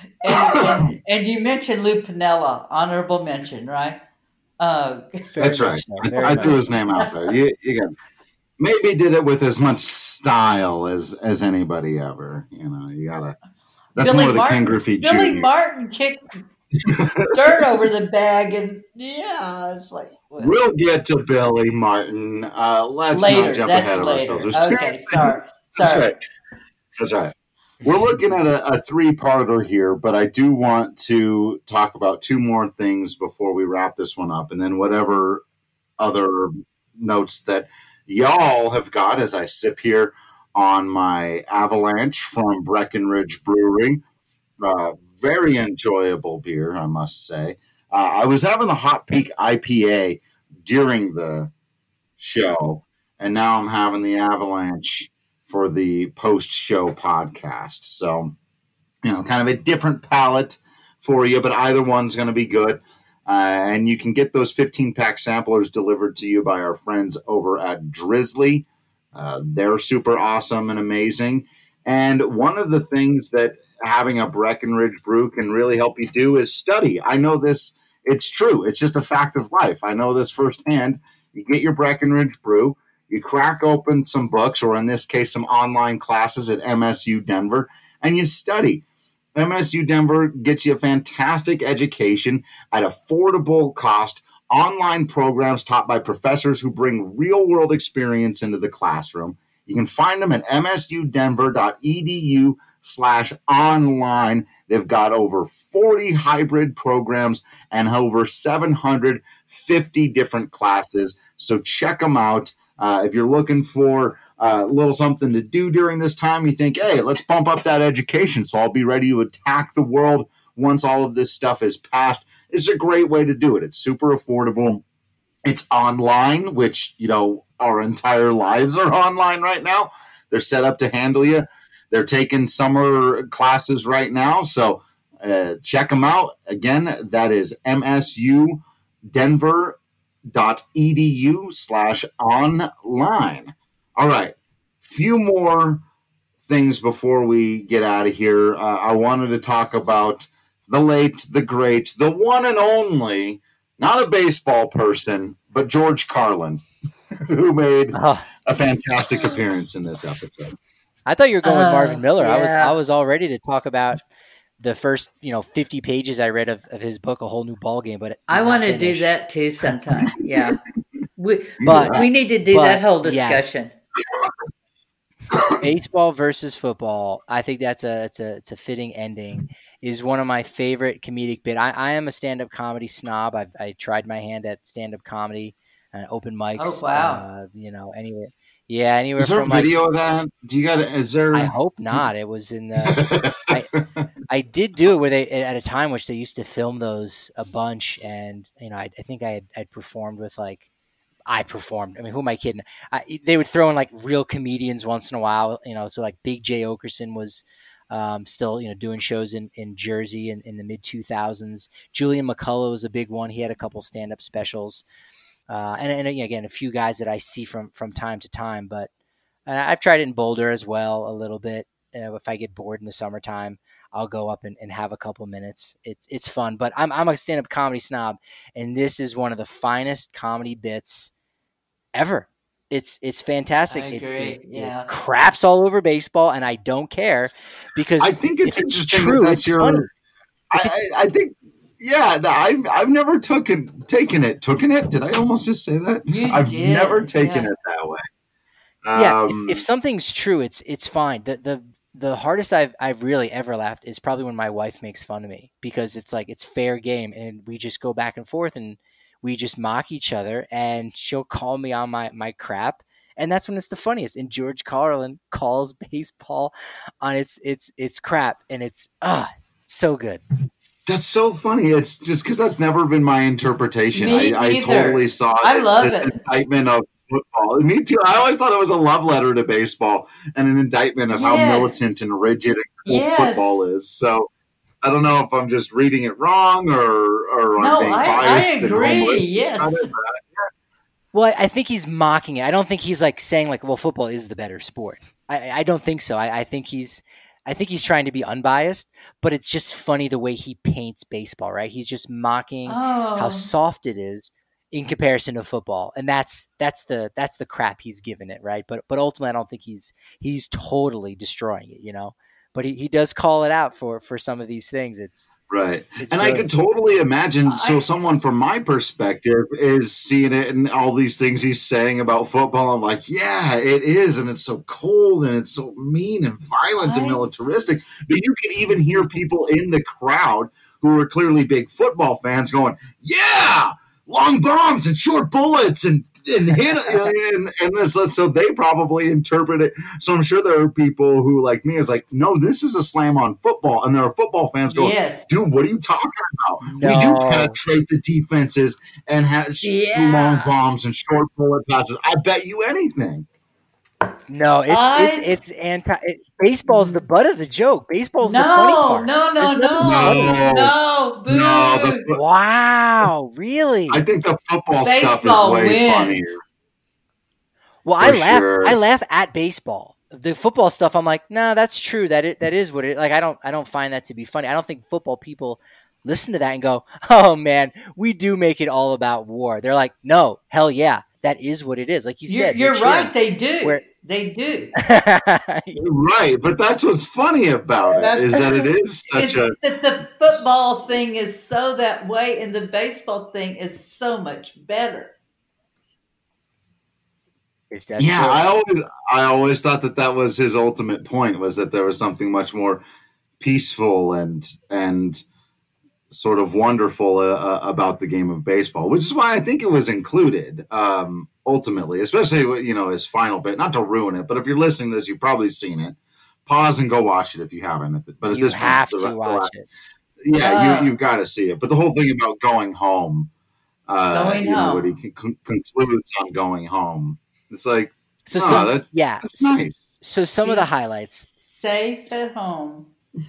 and, and you mentioned Lou Piniella, honorable mention, right? Uh, Very That's right. much so, I, very I much. threw his name out there. You, you got, maybe did it with as much style as as anybody ever. You know, you gotta. That's Billy more the Martin, Ken Griffey Billy Junior Martin kicked dirt over the bag, and yeah, it's like what? We'll get to Billy Martin. Uh, let's later. not jump That's ahead of later. ourselves. There's two Okay, sorry, That's sorry. right. That's right. We're looking at a, a three-parter here, but I do want to talk about two more things before we wrap this one up, and then whatever other notes that y'all have got as I sip here on my Avalanche from Breckenridge Brewery. Uh, very enjoyable beer, I must say. Uh, I was having the Hot Peak I P A during the show, and now I'm having the Avalanche for the post-show podcast. So, you know, kind of a different palette for you, but either one's going to be good. Uh, and you can get those fifteen-pack samplers delivered to you by our friends over at Drizzly. Uh, they're super awesome and amazing. And one of the things that having a Breckenridge brew can really help you do is study. I know this, it's true. It's just a fact of life. I know this firsthand. You get your Breckenridge brew, you crack open some books, or in this case, some online classes at M S U Denver, and you study. M S U Denver gets you a fantastic education at affordable cost, online programs taught by professors who bring real-world experience into the classroom. You can find them at msudenver.edu slash online. They've got over forty hybrid programs and over seven hundred fifty different classes. So check them out. Uh, if you're looking for a little something to do during this time, you think, hey, let's bump up that education so I'll be ready to attack the world once all of this stuff is passed. It's a great way to do it. It's super affordable. It's online, which, you know, our entire lives are online right now. They're set up to handle you. They're taking summer classes right now. So uh, check them out. Again, that is msudenver.edu slash online. All right. Few more things before we get out of here. Uh, I wanted to talk about the late, the great, the one and only, not a baseball person, but George Carlin, who made Oh, a fantastic appearance in this episode. I thought you were going with Uh, Marvin Miller. I was yeah. I was all ready to talk about the first, you know, fifty pages I read of, of his book, A Whole New Ballgame, but I did not want to do finish. that too sometime. Yeah, we But we need to do but, that whole yes. discussion. Baseball versus football. I think that's a it's a it's a fitting ending. Is one of my favorite comedic bit. I, I am a stand up comedy snob. I've I tried my hand at stand up comedy and open mics. Oh, wow. Uh, you know, anywhere. Yeah, anywhere Is there a from like. video of that? Do you got? Is there? I hope not. It was in the. I, I did do it where they at a time which they used to film those a bunch, and you know I, I think I had I'd performed with like I performed. I mean, who am I kidding? I, they would throw in like real comedians once in a while, you know. So like Big Jay Okerson was um, still you know doing shows in, in Jersey in, in the mid two thousands. Julian McCullough was a big one. He had a couple stand up specials, uh, and, and again a few guys that I see from from time to time. But and I've tried it in Boulder as well a little bit. Uh, if I get bored in the summertime, I'll go up and, and have a couple minutes. It's it's fun, but I'm I'm a stand-up comedy snob, and this is one of the finest comedy bits ever. It's it's fantastic. I It, agree. it, Yeah. it craps all over baseball, and I don't care because I think it's if it's interesting true. that that's It's your. funny. I, I, I think, yeah, the- I've I've never taken taken it. Taken it? Did I almost just say that? You I've did, never taken yeah. it that way. Yeah, Um, if, if something's true, it's it's fine. The the the hardest I've I've really ever laughed is probably when my wife makes fun of me because it's like it's fair game and we just go back and forth and we just mock each other and she'll call me on my my crap. And that's when it's the funniest. And George Carlin calls baseball on its its its crap, and it's ah so good. That's so funny. It's just because that's never been my interpretation. Me I, I either. totally saw I it, love this it. indictment of football. Me too. I always thought it was a love letter to baseball and an indictment of how Yes. militant and rigid and cool Yes. football is. So I don't know if I'm just reading it wrong or or I'm No, being I- I biased and agree, homeless. yes. I don't know. Well, I- I think he's mocking it. I don't think he's like saying like, "Well, football is the better sport." I, I don't think so. I, I think he's, I think he's trying to be unbiased. But it's just funny the way he paints baseball. Right? He's just mocking Oh. how soft it is in comparison to football, and that's that's the that's the crap he's given it. Right? But but ultimately, I don't think he's he's totally destroying it. You know. But he, he does call it out for for some of these things. It's Right. It's And I good. could totally imagine. So, I- someone from my perspective is seeing it and all these things he's saying about football. I'm like, yeah, it is. And it's so cold and it's so mean and violent and I- militaristic. But you can even hear people in the crowd who are clearly big football fans going, yeah, long bombs and short bullets and, and hit. and, and it's, so they probably interpret it. So, I'm sure there are people who, like me, is like, no, this is a slam on football. And there are football fans going, Yes. dude, what are you talking about? We No. do penetrate the defenses and have sh- Yeah. long bombs and short bullet passes. I bet you anything. no, it's I- it's it's anti. It, baseball's the butt of the joke. Baseball's No, the funny part. no, no, There's no, nothing no, boo. No, the fo- Wow, really? I think the football stuff is Baseball way wins. funnier. Well, I For laugh. sure. I laugh at baseball. The football stuff, I'm like, nah, that's true. That it, that is what it. Like, I don't, I don't find that to be funny. I don't think football people listen to that and go, oh man, we do make it all about war. They're like, no, hell yeah, that is what it is. Like you You're, said, you're they're right. They do. Where- They do. cheering. Right, but that's what's funny about it, That's- is that it is such It's a that the football thing is so that way, and the baseball thing is so much better. Is that yeah. true? I always I always thought that that was his ultimate point, was that there was something much more peaceful and and sort of wonderful uh, about the game of baseball, which is why I think it was included um, ultimately, especially with, you know, his final bit. Not to ruin it, but if you're listening to this, you've probably seen it. Pause and go watch it if you haven't. But at you this have point, to the- watch the- it. Yeah, Ah. you, you've got to see it. But the whole thing about going home, uh, Going you know, home. what he con- concludes on going home. It's like, So, oh, some, that's, yeah. that's So, nice. so some of the Be highlights. Safe at home.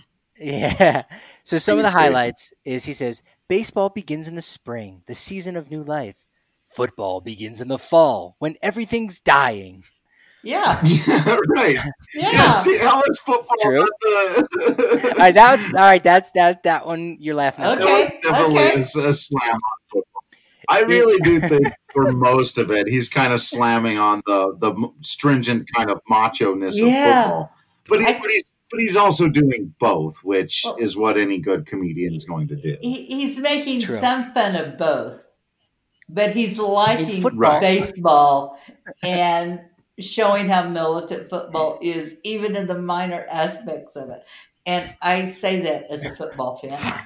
Yeah. So some of Be the safe. highlights is he says, baseball begins in the spring, the season of new life. Football begins in the fall, when everything's dying. Yeah. Yeah, right. Yeah. Yeah, see, how is football True. not the... All right, that's all right. That's that that one you're laughing at. Okay. That was definitely okay. a, a slam on football. I really do think for most of it, he's kind of slamming on the the m- stringent kind of macho-ness Yeah. of football. But, he, I- but he's but he's also doing both, which Well- is what any good comedian is going to do. He, he's making True. some fun of both, but he's liking football. baseball and showing how militant football is, even in the minor aspects of it. And I say that as a football fan.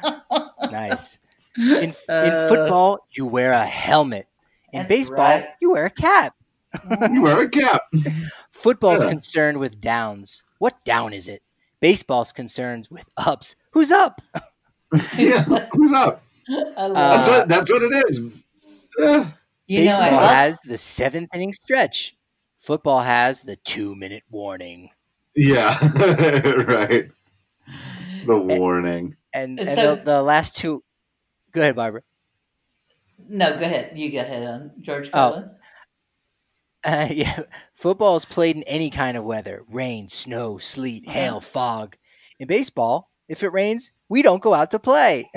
Nice. In in Uh, football, you wear a helmet. In That's baseball, right. you wear a cap. You wear a cap. Football's Yeah. concerned with downs. What down is it? Baseball's concerned with ups. Who's up? Yeah, who's up? I love That's Uh, what that's what it is. Yeah. You know, I Baseball love- has the seventh inning stretch. Football has the two minute warning. Yeah, right. The warning. And, and So- the, the last two. Go ahead, Barbara. no, go ahead. You go ahead on George Oh. Carlin. Uh, yeah, football is played in any kind of weather: rain, snow, sleet, hail, fog. In baseball, if it rains, we don't go out to play.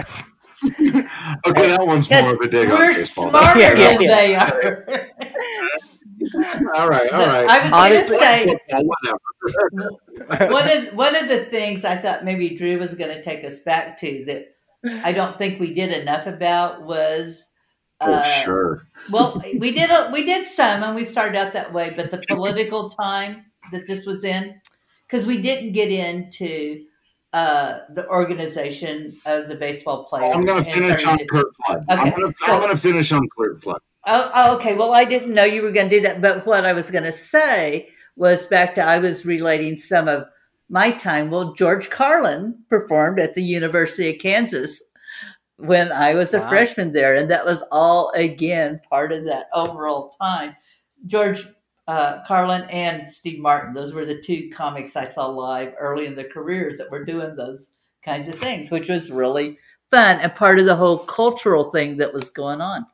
Okay, that one's more of a dig on We're baseball. smarter Yeah, yeah, than yeah. they are. all right, all The- right. I was Honestly- going to say Football, whatever. one of one of the things I thought maybe Drew was going to take us back to that I don't think we did enough about was. Oh, uh, sure. Well, we did a, we did some, and we started out that way. But the political time that this was in, because we didn't get into uh, the organization of the baseball players. I'm going to and finish on started to- Curt Flood. I'm Okay, going to so- I'm going to finish on Curt Flood. Oh, oh, okay. Well, I didn't know you were going to do that. But what I was going to say was back to I was relating some of my time. Well, George Carlin performed at the University of Kansas when I was a Wow. freshman there. And that was all, again, part of that overall time. George uh, Carlin and Steve Martin, those were the two comics I saw live early in their careers that were doing those kinds of things, which was really fun and part of the whole cultural thing that was going on.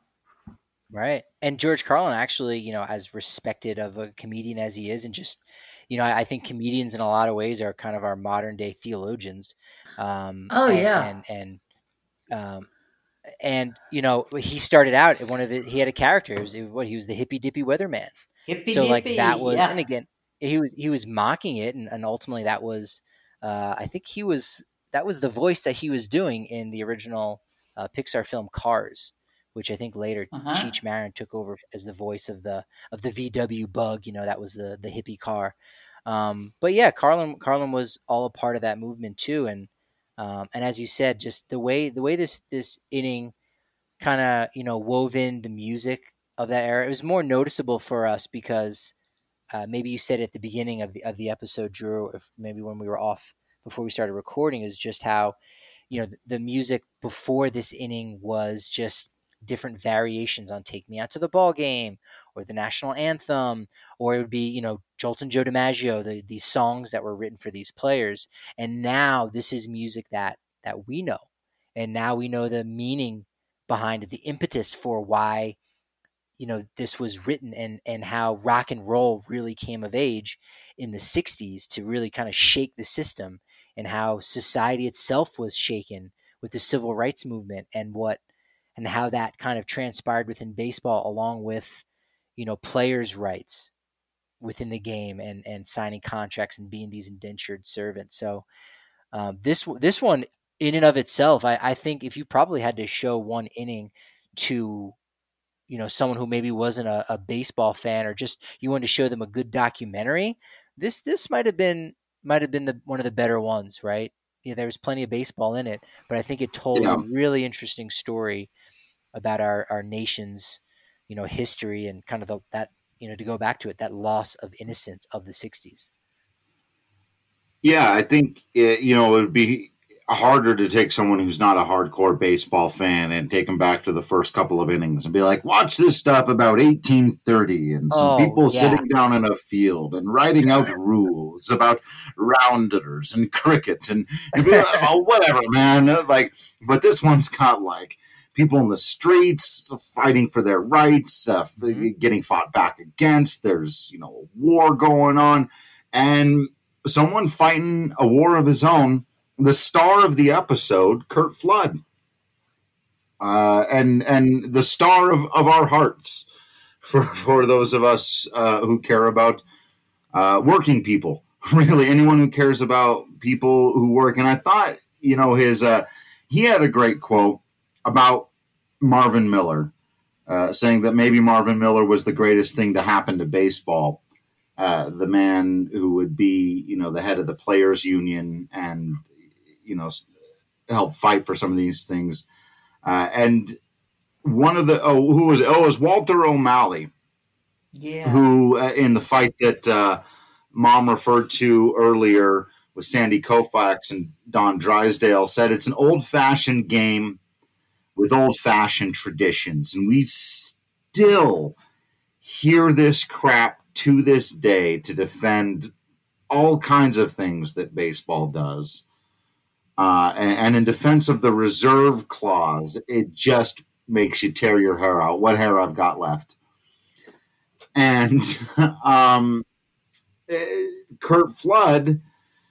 Right. And George Carlin actually, you know, as respected of a comedian as he is, and just, you know, I, I think comedians in a lot of ways are kind of our modern day theologians. Um, Oh, and, yeah. And, and, um, and, you know, he started out one of the, he had a character, it was, it, what, he was the hippy dippy weatherman. Hippy So like dippy, that was, yeah. and again, he was, he was mocking it. And, and ultimately that was, uh, I think he was, that was the voice that he was doing in the original uh, Pixar film Cars, which I think later Uh-huh. Cheech Marin took over as the voice of the of the V W Bug. You know, that was the the hippie car. Um, but yeah, Carlin Carlin was all a part of that movement too. And um, and as you said, just the way the way this this inning kind of you know wove in the music of that era, it was more noticeable for us because uh, maybe you said at the beginning of the of the episode, Drew, if maybe when we were off before we started recording, is just how you know the, the music before this inning was just different variations on Take Me Out to the Ball Game or the national anthem, or it would be, you know, Joltin' Joe DiMaggio, the, these songs that were written for these players. And now this is music that, that we know. And now we know the meaning behind it, the impetus for why, you know, this was written and, and how rock and roll really came of age in the sixties to really kind of shake the system, and how society itself was shaken with the civil rights movement and what, and how that kind of transpired within baseball, along with, you know, players' rights within the game and, and signing contracts and being these indentured servants. So um, this this one in and of itself, I, I think if you probably had to show one inning to, you know, someone who maybe wasn't a, a baseball fan, or just you wanted to show them a good documentary, this this might have been might have been the one of the better ones, right? Yeah, there was plenty of baseball in it, but I think it told Yeah. a really interesting story about our, our nation's, you know, history and kind of the, that, you know, to go back to it, that loss of innocence of the sixties. Yeah, I think it, you know it would be harder to take someone who's not a hardcore baseball fan and take them back to the first couple of innings and be like, watch this stuff about eighteen thirty and some Oh, people yeah. sitting down in a field and writing out rules about rounders and cricket and you'd be like, oh, whatever, man. Like, but this one's got like people in the streets fighting for their rights, uh, Mhm. getting fought back against. There's, you know, war going on, and someone fighting a war of his own. The star of the episode, Curt Flood, uh, and and the star of, of our hearts for for those of us uh, who care about uh, working people. Really, anyone who cares about people who work. And I thought, you know, his uh, he had a great quote about Marvin Miller, uh, saying that maybe Marvin Miller was the greatest thing to happen to baseball. Uh, the man who would be, you know, the head of the players union and, you know, help fight for some of these things. Uh, and one of the, oh, who was, oh, it was Walter O'Malley, Yeah. who uh, in the fight that uh, Mom referred to earlier with Sandy Koufax and Don Drysdale, said it's an old-fashioned game with old-fashioned traditions. And we still hear this crap to this day to defend all kinds of things that baseball does. Uh, and, and in defense of the reserve clause, it just makes you tear your hair out. What hair I've got left. And um, Curt Flood,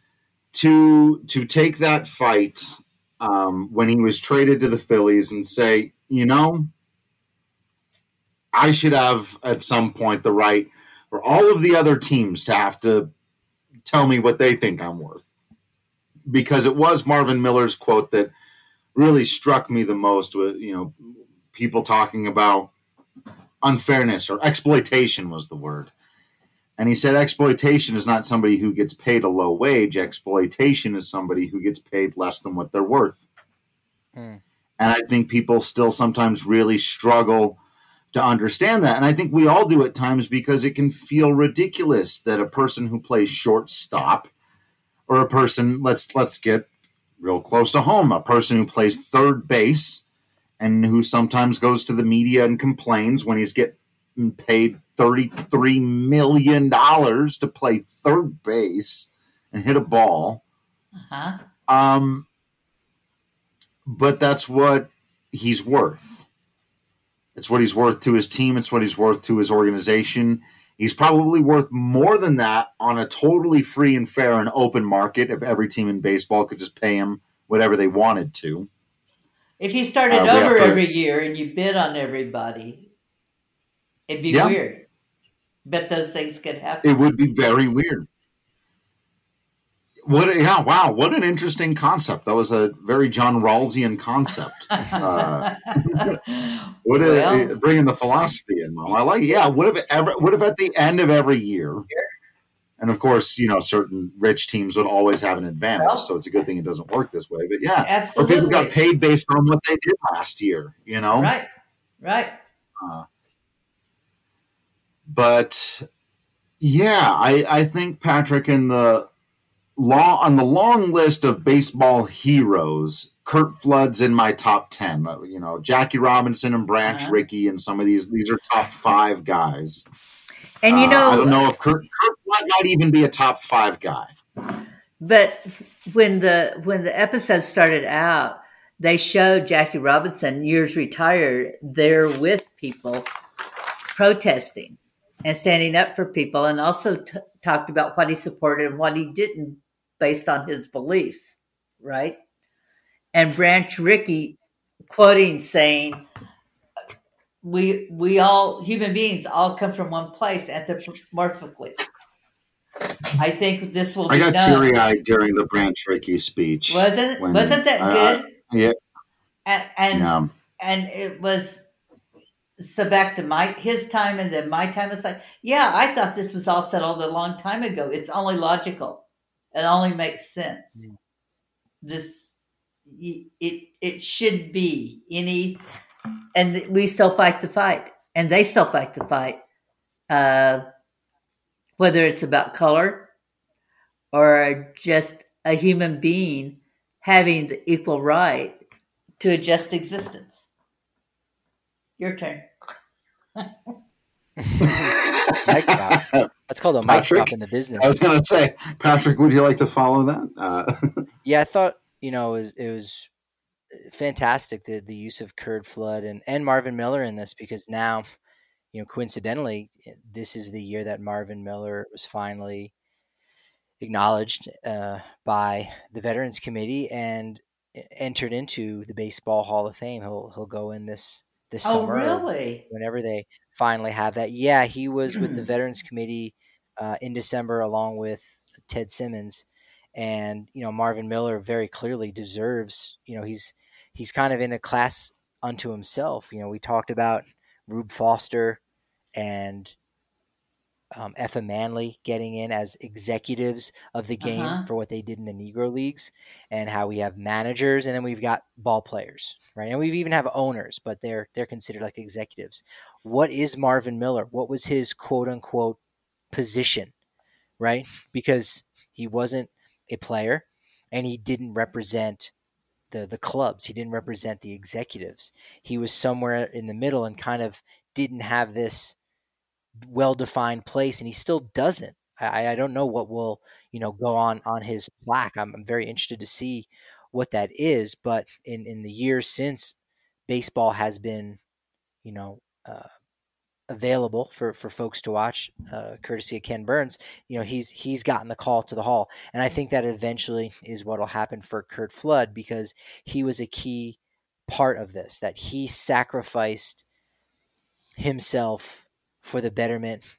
to to take that fight um, when he was traded to the Phillies and say, you know, I should have at some point the right for all of the other teams to have to tell me what they think I'm worth. Because it was Marvin Miller's quote that really struck me the most, with, you know, people talking about unfairness, or exploitation was the word. And he said exploitation is not somebody who gets paid a low wage. Exploitation is somebody who gets paid less than what they're worth. Mm. And I think people still sometimes really struggle to understand that. And I think we all do at times, because it can feel ridiculous that a person who plays shortstop, or a person, let's let's get real close to home, a person who plays third base and who sometimes goes to the media and complains when he's getting paid thirty-three million dollars to play third base and hit a ball. Uh-huh. Um, but that's what he's worth. It's what he's worth to his team. It's what he's worth to his organization. He's probably worth more than that on a totally free and fair and open market if every team in baseball could just pay him whatever they wanted to. If you started uh, over to, every year and you bid on everybody, it'd be yeah. weird. Bet those things could happen. It would be very weird. What? Yeah, wow, what an interesting concept. That was a very John Rawlsian concept. Uh, what well, a, bringing the philosophy in, Mom. I like it. Yeah, what if ever? What if at the end of every year, and of course, you know, certain rich teams would always have an advantage, well, so it's a good thing it doesn't work this way. But yeah, absolutely. Or people got paid based on what they did last year, you know? Right, right. Uh, but yeah, I, I think, Patrick, in the long, on the long list of baseball heroes, Curt Flood's in my top ten. You know, Jackie Robinson and Branch uh-huh. Rickey and some of these, these are top five guys. And you know, uh, I don't know if Curt, Curt Flood might even be a top five guy. But when the when the episode started out, they showed Jackie Robinson, years retired, there with people protesting and standing up for people, and also t- talked about what he supported and what he didn't based on his beliefs, right? And Branch Rickey quoting saying, we we all, human beings, all come from one place anthropomorphically. I think this will I be got known. teary-eyed during the Branch Rickey speech. Wasn't, when, wasn't that uh, good? Yeah. And, and, yeah. and it was... So back to my his time and then my time, it's like, yeah, I thought this was all settled a long time ago. It's only logical. It only makes sense. Mm. This, it it should be any, and we still fight the fight, and they still fight the fight. Uh, whether it's about color or just a human being having the equal right to a just existence. Your turn. Mic drop. That's called a mic drop in the business. I was going to say, Patrick, would you like to follow that? Uh, yeah, I thought, you know, it was, it was fantastic, the, the use of Curt Flood and, and Marvin Miller in this, because now, you know, coincidentally, this is the year that Marvin Miller was finally acknowledged uh, by the Veterans Committee and entered into the Baseball Hall of Fame. He'll he'll go in this this oh, summer, really? whenever they finally have that. Yeah, he was with the Veterans Committee uh, in December, along with Ted Simmons, and you know, Marvin Miller very clearly deserves. You know, he's he's kind of in a class unto himself. You know, we talked about Rube Foster and um, Effa Manley getting in as executives of the game uh-huh. for what they did in the Negro Leagues, and how we have managers, and then we've got ball players, right? And we even have owners, but they're they're considered like executives. What is Marvin Miller? What was his quote unquote position, right? Because he wasn't a player, and he didn't represent the the clubs. He didn't represent the executives. He was somewhere in the middle and kind of didn't have this well-defined place, and he still doesn't. I, I don't know what will, you know, go on on his plaque. I'm, I'm very interested to see what that is. But in, in the years since baseball has been, you know, uh, available for, for folks to watch, uh, courtesy of Ken Burns, you know, he's he's gotten the call to the Hall, and I think that eventually is what will happen for Curt Flood, because he was a key part of this. That he sacrificed himself for the betterment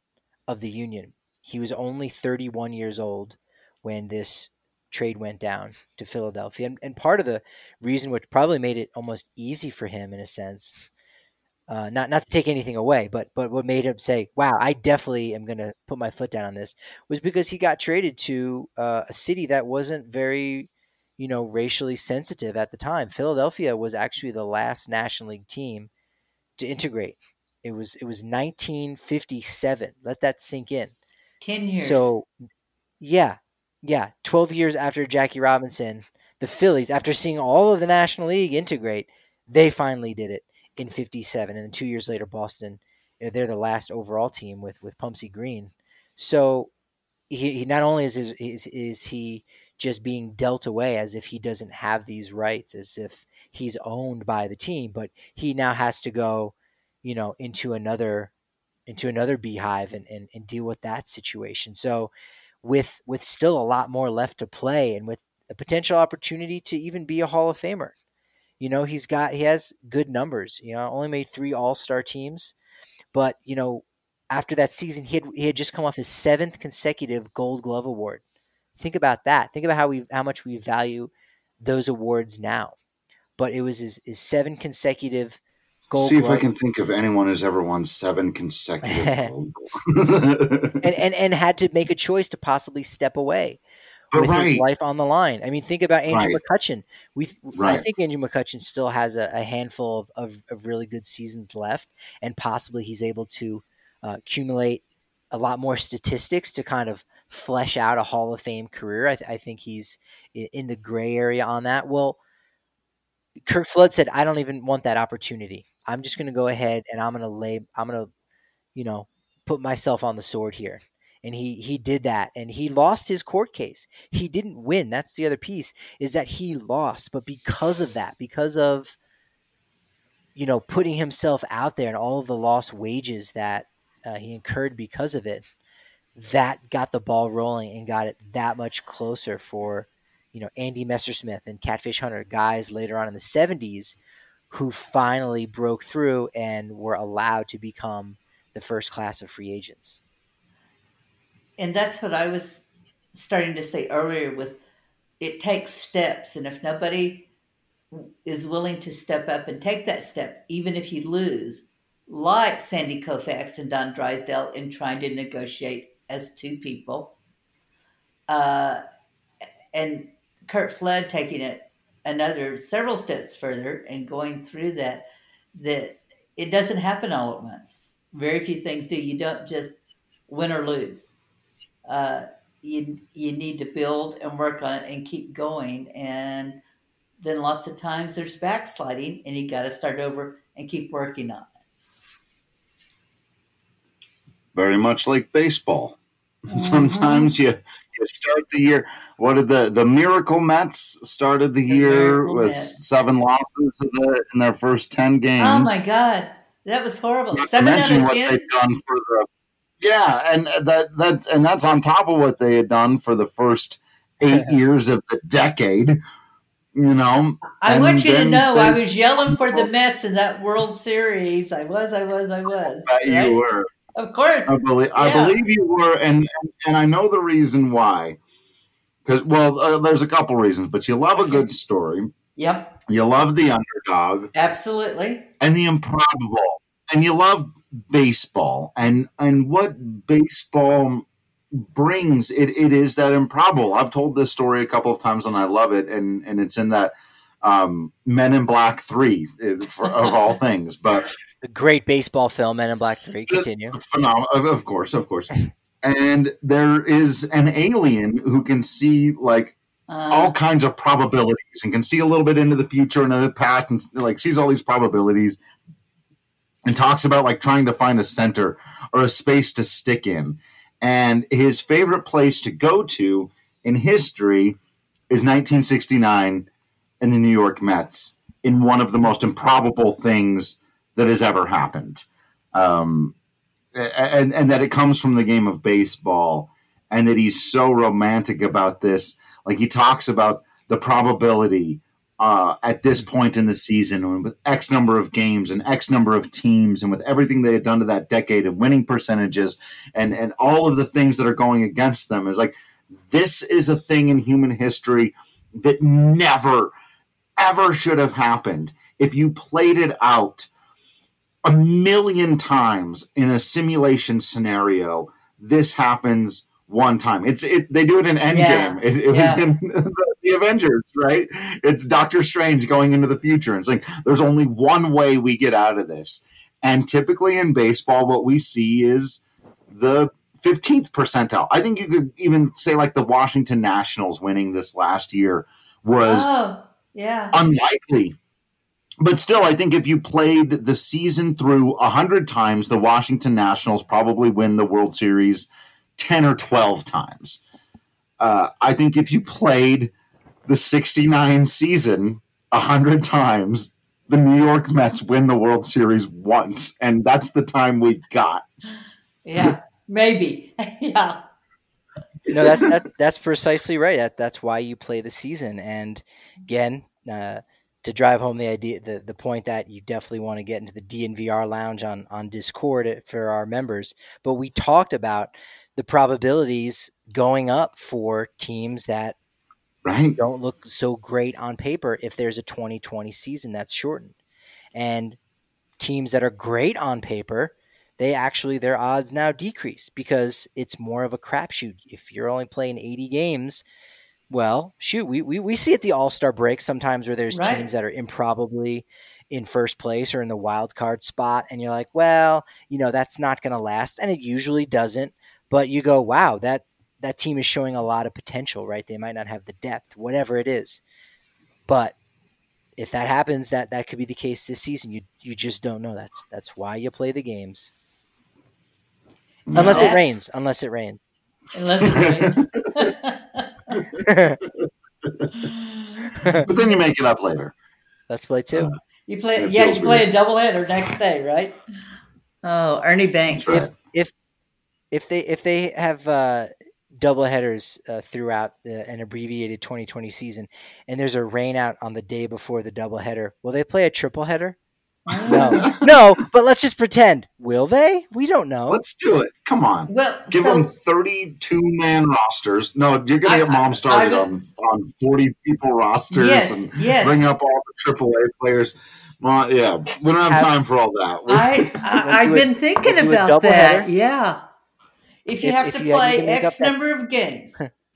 of the Union. He was only thirty-one years old when this trade went down to Philadelphia. And, and part of the reason, which probably made it almost easy for him in a sense, uh, not not to take anything away, but but what made him say, wow, I definitely am going to put my foot down on this, was because he got traded to uh, a city that wasn't very, you know, racially sensitive at the time. Philadelphia was actually the last National League team to integrate. It was it was nineteen fifty-seven. Let that sink in. Ten years. So, yeah, yeah, twelve years after Jackie Robinson, the Phillies, after seeing all of the National League integrate, they finally did it in fifty-seven. And then two years later, Boston, you know, they're the last overall team with with Pumpsy Green. So he, he not only is, his, is is he just being dealt away as if he doesn't have these rights, as if he's owned by the team, but he now has to go, you know, into another into another beehive and, and, and deal with that situation. So with with still a lot more left to play and with a potential opportunity to even be a Hall of Famer, you know, he's got he has good numbers. You know, only made three All-Star teams, but you know, after that season, he had he had just come off his seventh consecutive Gold Glove award. Think about that. Think about how we how much we value those awards now. But it was his, his seven consecutive Gold See Glove. if I can think of anyone who's ever won seven consecutive Gold and, and and had to make a choice to possibly step away But with right. his life on the line. I mean, think about Andrew Right. McCutchen. We Right. I think Andrew McCutchen still has a, a handful of, of, of really good seasons left, and possibly he's able to uh, accumulate a lot more statistics to kind of flesh out a Hall of Fame career. I, th- I think he's in the gray area on that. Well, Curt Flood said, I don't even want that opportunity. I'm just going to go ahead and I'm going to lay, I'm going to, you know, put myself on the sword here. And he, he did that, and he lost his court case. He didn't win. That's the other piece, is that he lost. But because of that, because of, you know, putting himself out there and all of the lost wages that uh, he incurred because of it, that got the ball rolling and got it that much closer for, you know, Andy Messersmith and Catfish Hunter, guys later on in the seventies who finally broke through and were allowed to become the first class of free agents. And that's what I was starting to say earlier with it takes steps. And if nobody is willing to step up and take that step, even if you lose, like Sandy Koufax and Don Drysdale in trying to negotiate as two people, uh, and Curt Flood taking it another several steps further and going through that, that it doesn't happen all at once. Very few things do. You don't just win or lose. Uh, you you need to build and work on it and keep going. And then lots of times there's backsliding, and you got to start over and keep working on it. Very much like baseball. Mm-hmm. Sometimes you, you start the year. What did the the Miracle Mets started the, the year with Mets. seven losses in, the, in their first ten games? Oh my God, that was horrible. Not seven out of what ten. They've done for the yeah, and that that's and that's on top of what they had done for the first eight years of the decade. You know, I and want you to know they, I was yelling for the Mets in that World Series. I was, I was, I was. Right? You were. Of course. I believe, yeah. I believe you were, and and I know the reason why. Because, well, uh, there's a couple reasons, but you love a good story. Yep. You love the underdog. Absolutely. And the improbable. And you love baseball. And and what baseball brings, it, it is that improbable. I've told this story a couple of times, and I love it, and, and it's in that um, Men in Black three, for, of all things. But the great baseball film, Men in Black three. Continue. Phenomenal, of course, of course. And there is an alien who can see like uh, all kinds of probabilities and can see a little bit into the future and the past, and like sees all these probabilities, and talks about like trying to find a center or a space to stick in. And his favorite place to go to in history is nineteen sixty-nine and the New York Mets, in one of the most improbable things that has ever happened. Um, and, and that it comes from the game of baseball, and that he's so romantic about this. Like, he talks about the probability uh, at this point in the season, and with X number of games and X number of teams, and with everything they had done to that decade and winning percentages and, and all of the things that are going against them, is like, this is a thing in human history that never, ever should have happened. If you played it out a million times in a simulation scenario, this happens one time. It's it. They do it in Endgame. Yeah. It, it yeah. was in the, the Avengers, right? It's Doctor Strange going into the future. And it's like, there's only one way we get out of this. And typically in baseball, what we see is the fifteenth percentile. I think you could even say like the Washington Nationals winning this last year was oh, yeah. unlikely. But still, I think if you played the season through one hundred times, the Washington Nationals probably win the World Series ten or twelve times. Uh, I think if you played the sixty-nine season one hundred times, the New York Mets win the World Series once, and that's the time we got. Yeah, maybe. Yeah. No, that's that, that's precisely right. That that's why you play the season. And again, uh, to drive home the idea, the, the point that you definitely want to get into the D N V R lounge on, on Discord for our members. But we talked about the probabilities going up for teams that right. don't look so great on paper if there's a twenty twenty season that's shortened. And teams that are great on paper, they actually, their odds now decrease because it's more of a crapshoot. If you're only playing eighty games, well, shoot, we, we, we see at the All-Star break sometimes where there's right. teams that are improbably in first place or in the wild card spot. And you're like, well, you know, that's not going to last. And it usually doesn't. But you go, wow, that, that team is showing a lot of potential, right? They might not have the depth, whatever it is. But if that happens, that, that could be the case this season. You you just don't know. That's that's why you play the games. No. Unless it rains. Unless it rains. Unless it rains. But then you make it up later. Let's play two. Uh, you play, yeah, you play weird. a doubleheader next day, right? Oh, Ernie Banks. Right. If if if they if they have uh, doubleheaders uh, throughout the, an abbreviated twenty twenty season, and there's a rain out on the day before the doubleheader, will they play a triple header? No, no, but let's just pretend. Will they? We don't know. Let's do it. Come on. Well, give so, them thirty-two man rosters. No, you're going to get mom started I, I, on on forty people rosters yes, and yes. bring up all the triple A players. Well, yeah, we don't have, have time for all that. I, I I've been thinking we'll about that. Header. Yeah, if you if, have if to you play X number that. of games,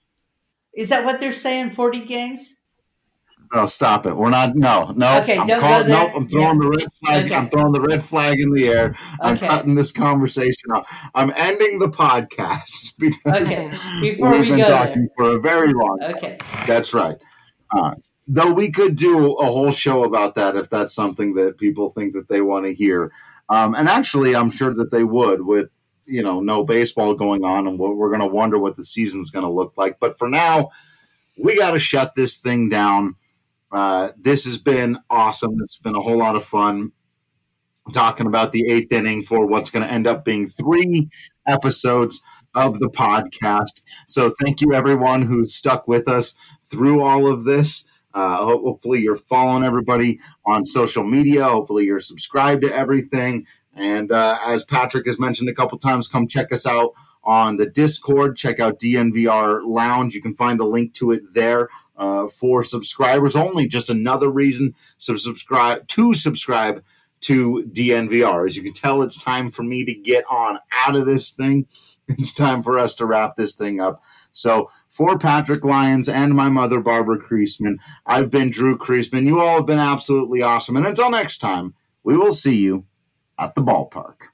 is that what they're saying? Forty games. No, stop it. We're not. No, no. Okay, I'm don't calling, go there. Nope. I'm throwing yeah. the red flag. Okay. I'm throwing the red flag in the air. I'm okay. cutting this conversation off. I'm ending the podcast because okay. Before we've we been go talking there. for a very long time. Okay, that's right. Uh, though we could do a whole show about that if that's something that people think that they want to hear. Um, and actually, I'm sure that they would with you know no baseball going on, and we're going to wonder what the season's going to look like. But for now, we got to shut this thing down. Uh, this has been awesome. It's been a whole lot of fun talking about the eighth inning for what's going to end up being three episodes of the podcast. So thank you, everyone who stuck with us through all of this. Uh, hopefully you're following everybody on social media. Hopefully you're subscribed to everything. And uh, as Patrick has mentioned a couple times, come check us out on the Discord. Check out D N V R Lounge. You can find a link to it there. Uh, for subscribers only, just another reason to subscribe to subscribe to D N V R. As you can tell, it's time for me to get on out of this thing. It's time for us to wrap this thing up. So for Patrick Lyons and my mother, Barbara Kreisman, I've been Drew Kreisman. You all have been absolutely awesome. And until next time, we will see you at the ballpark.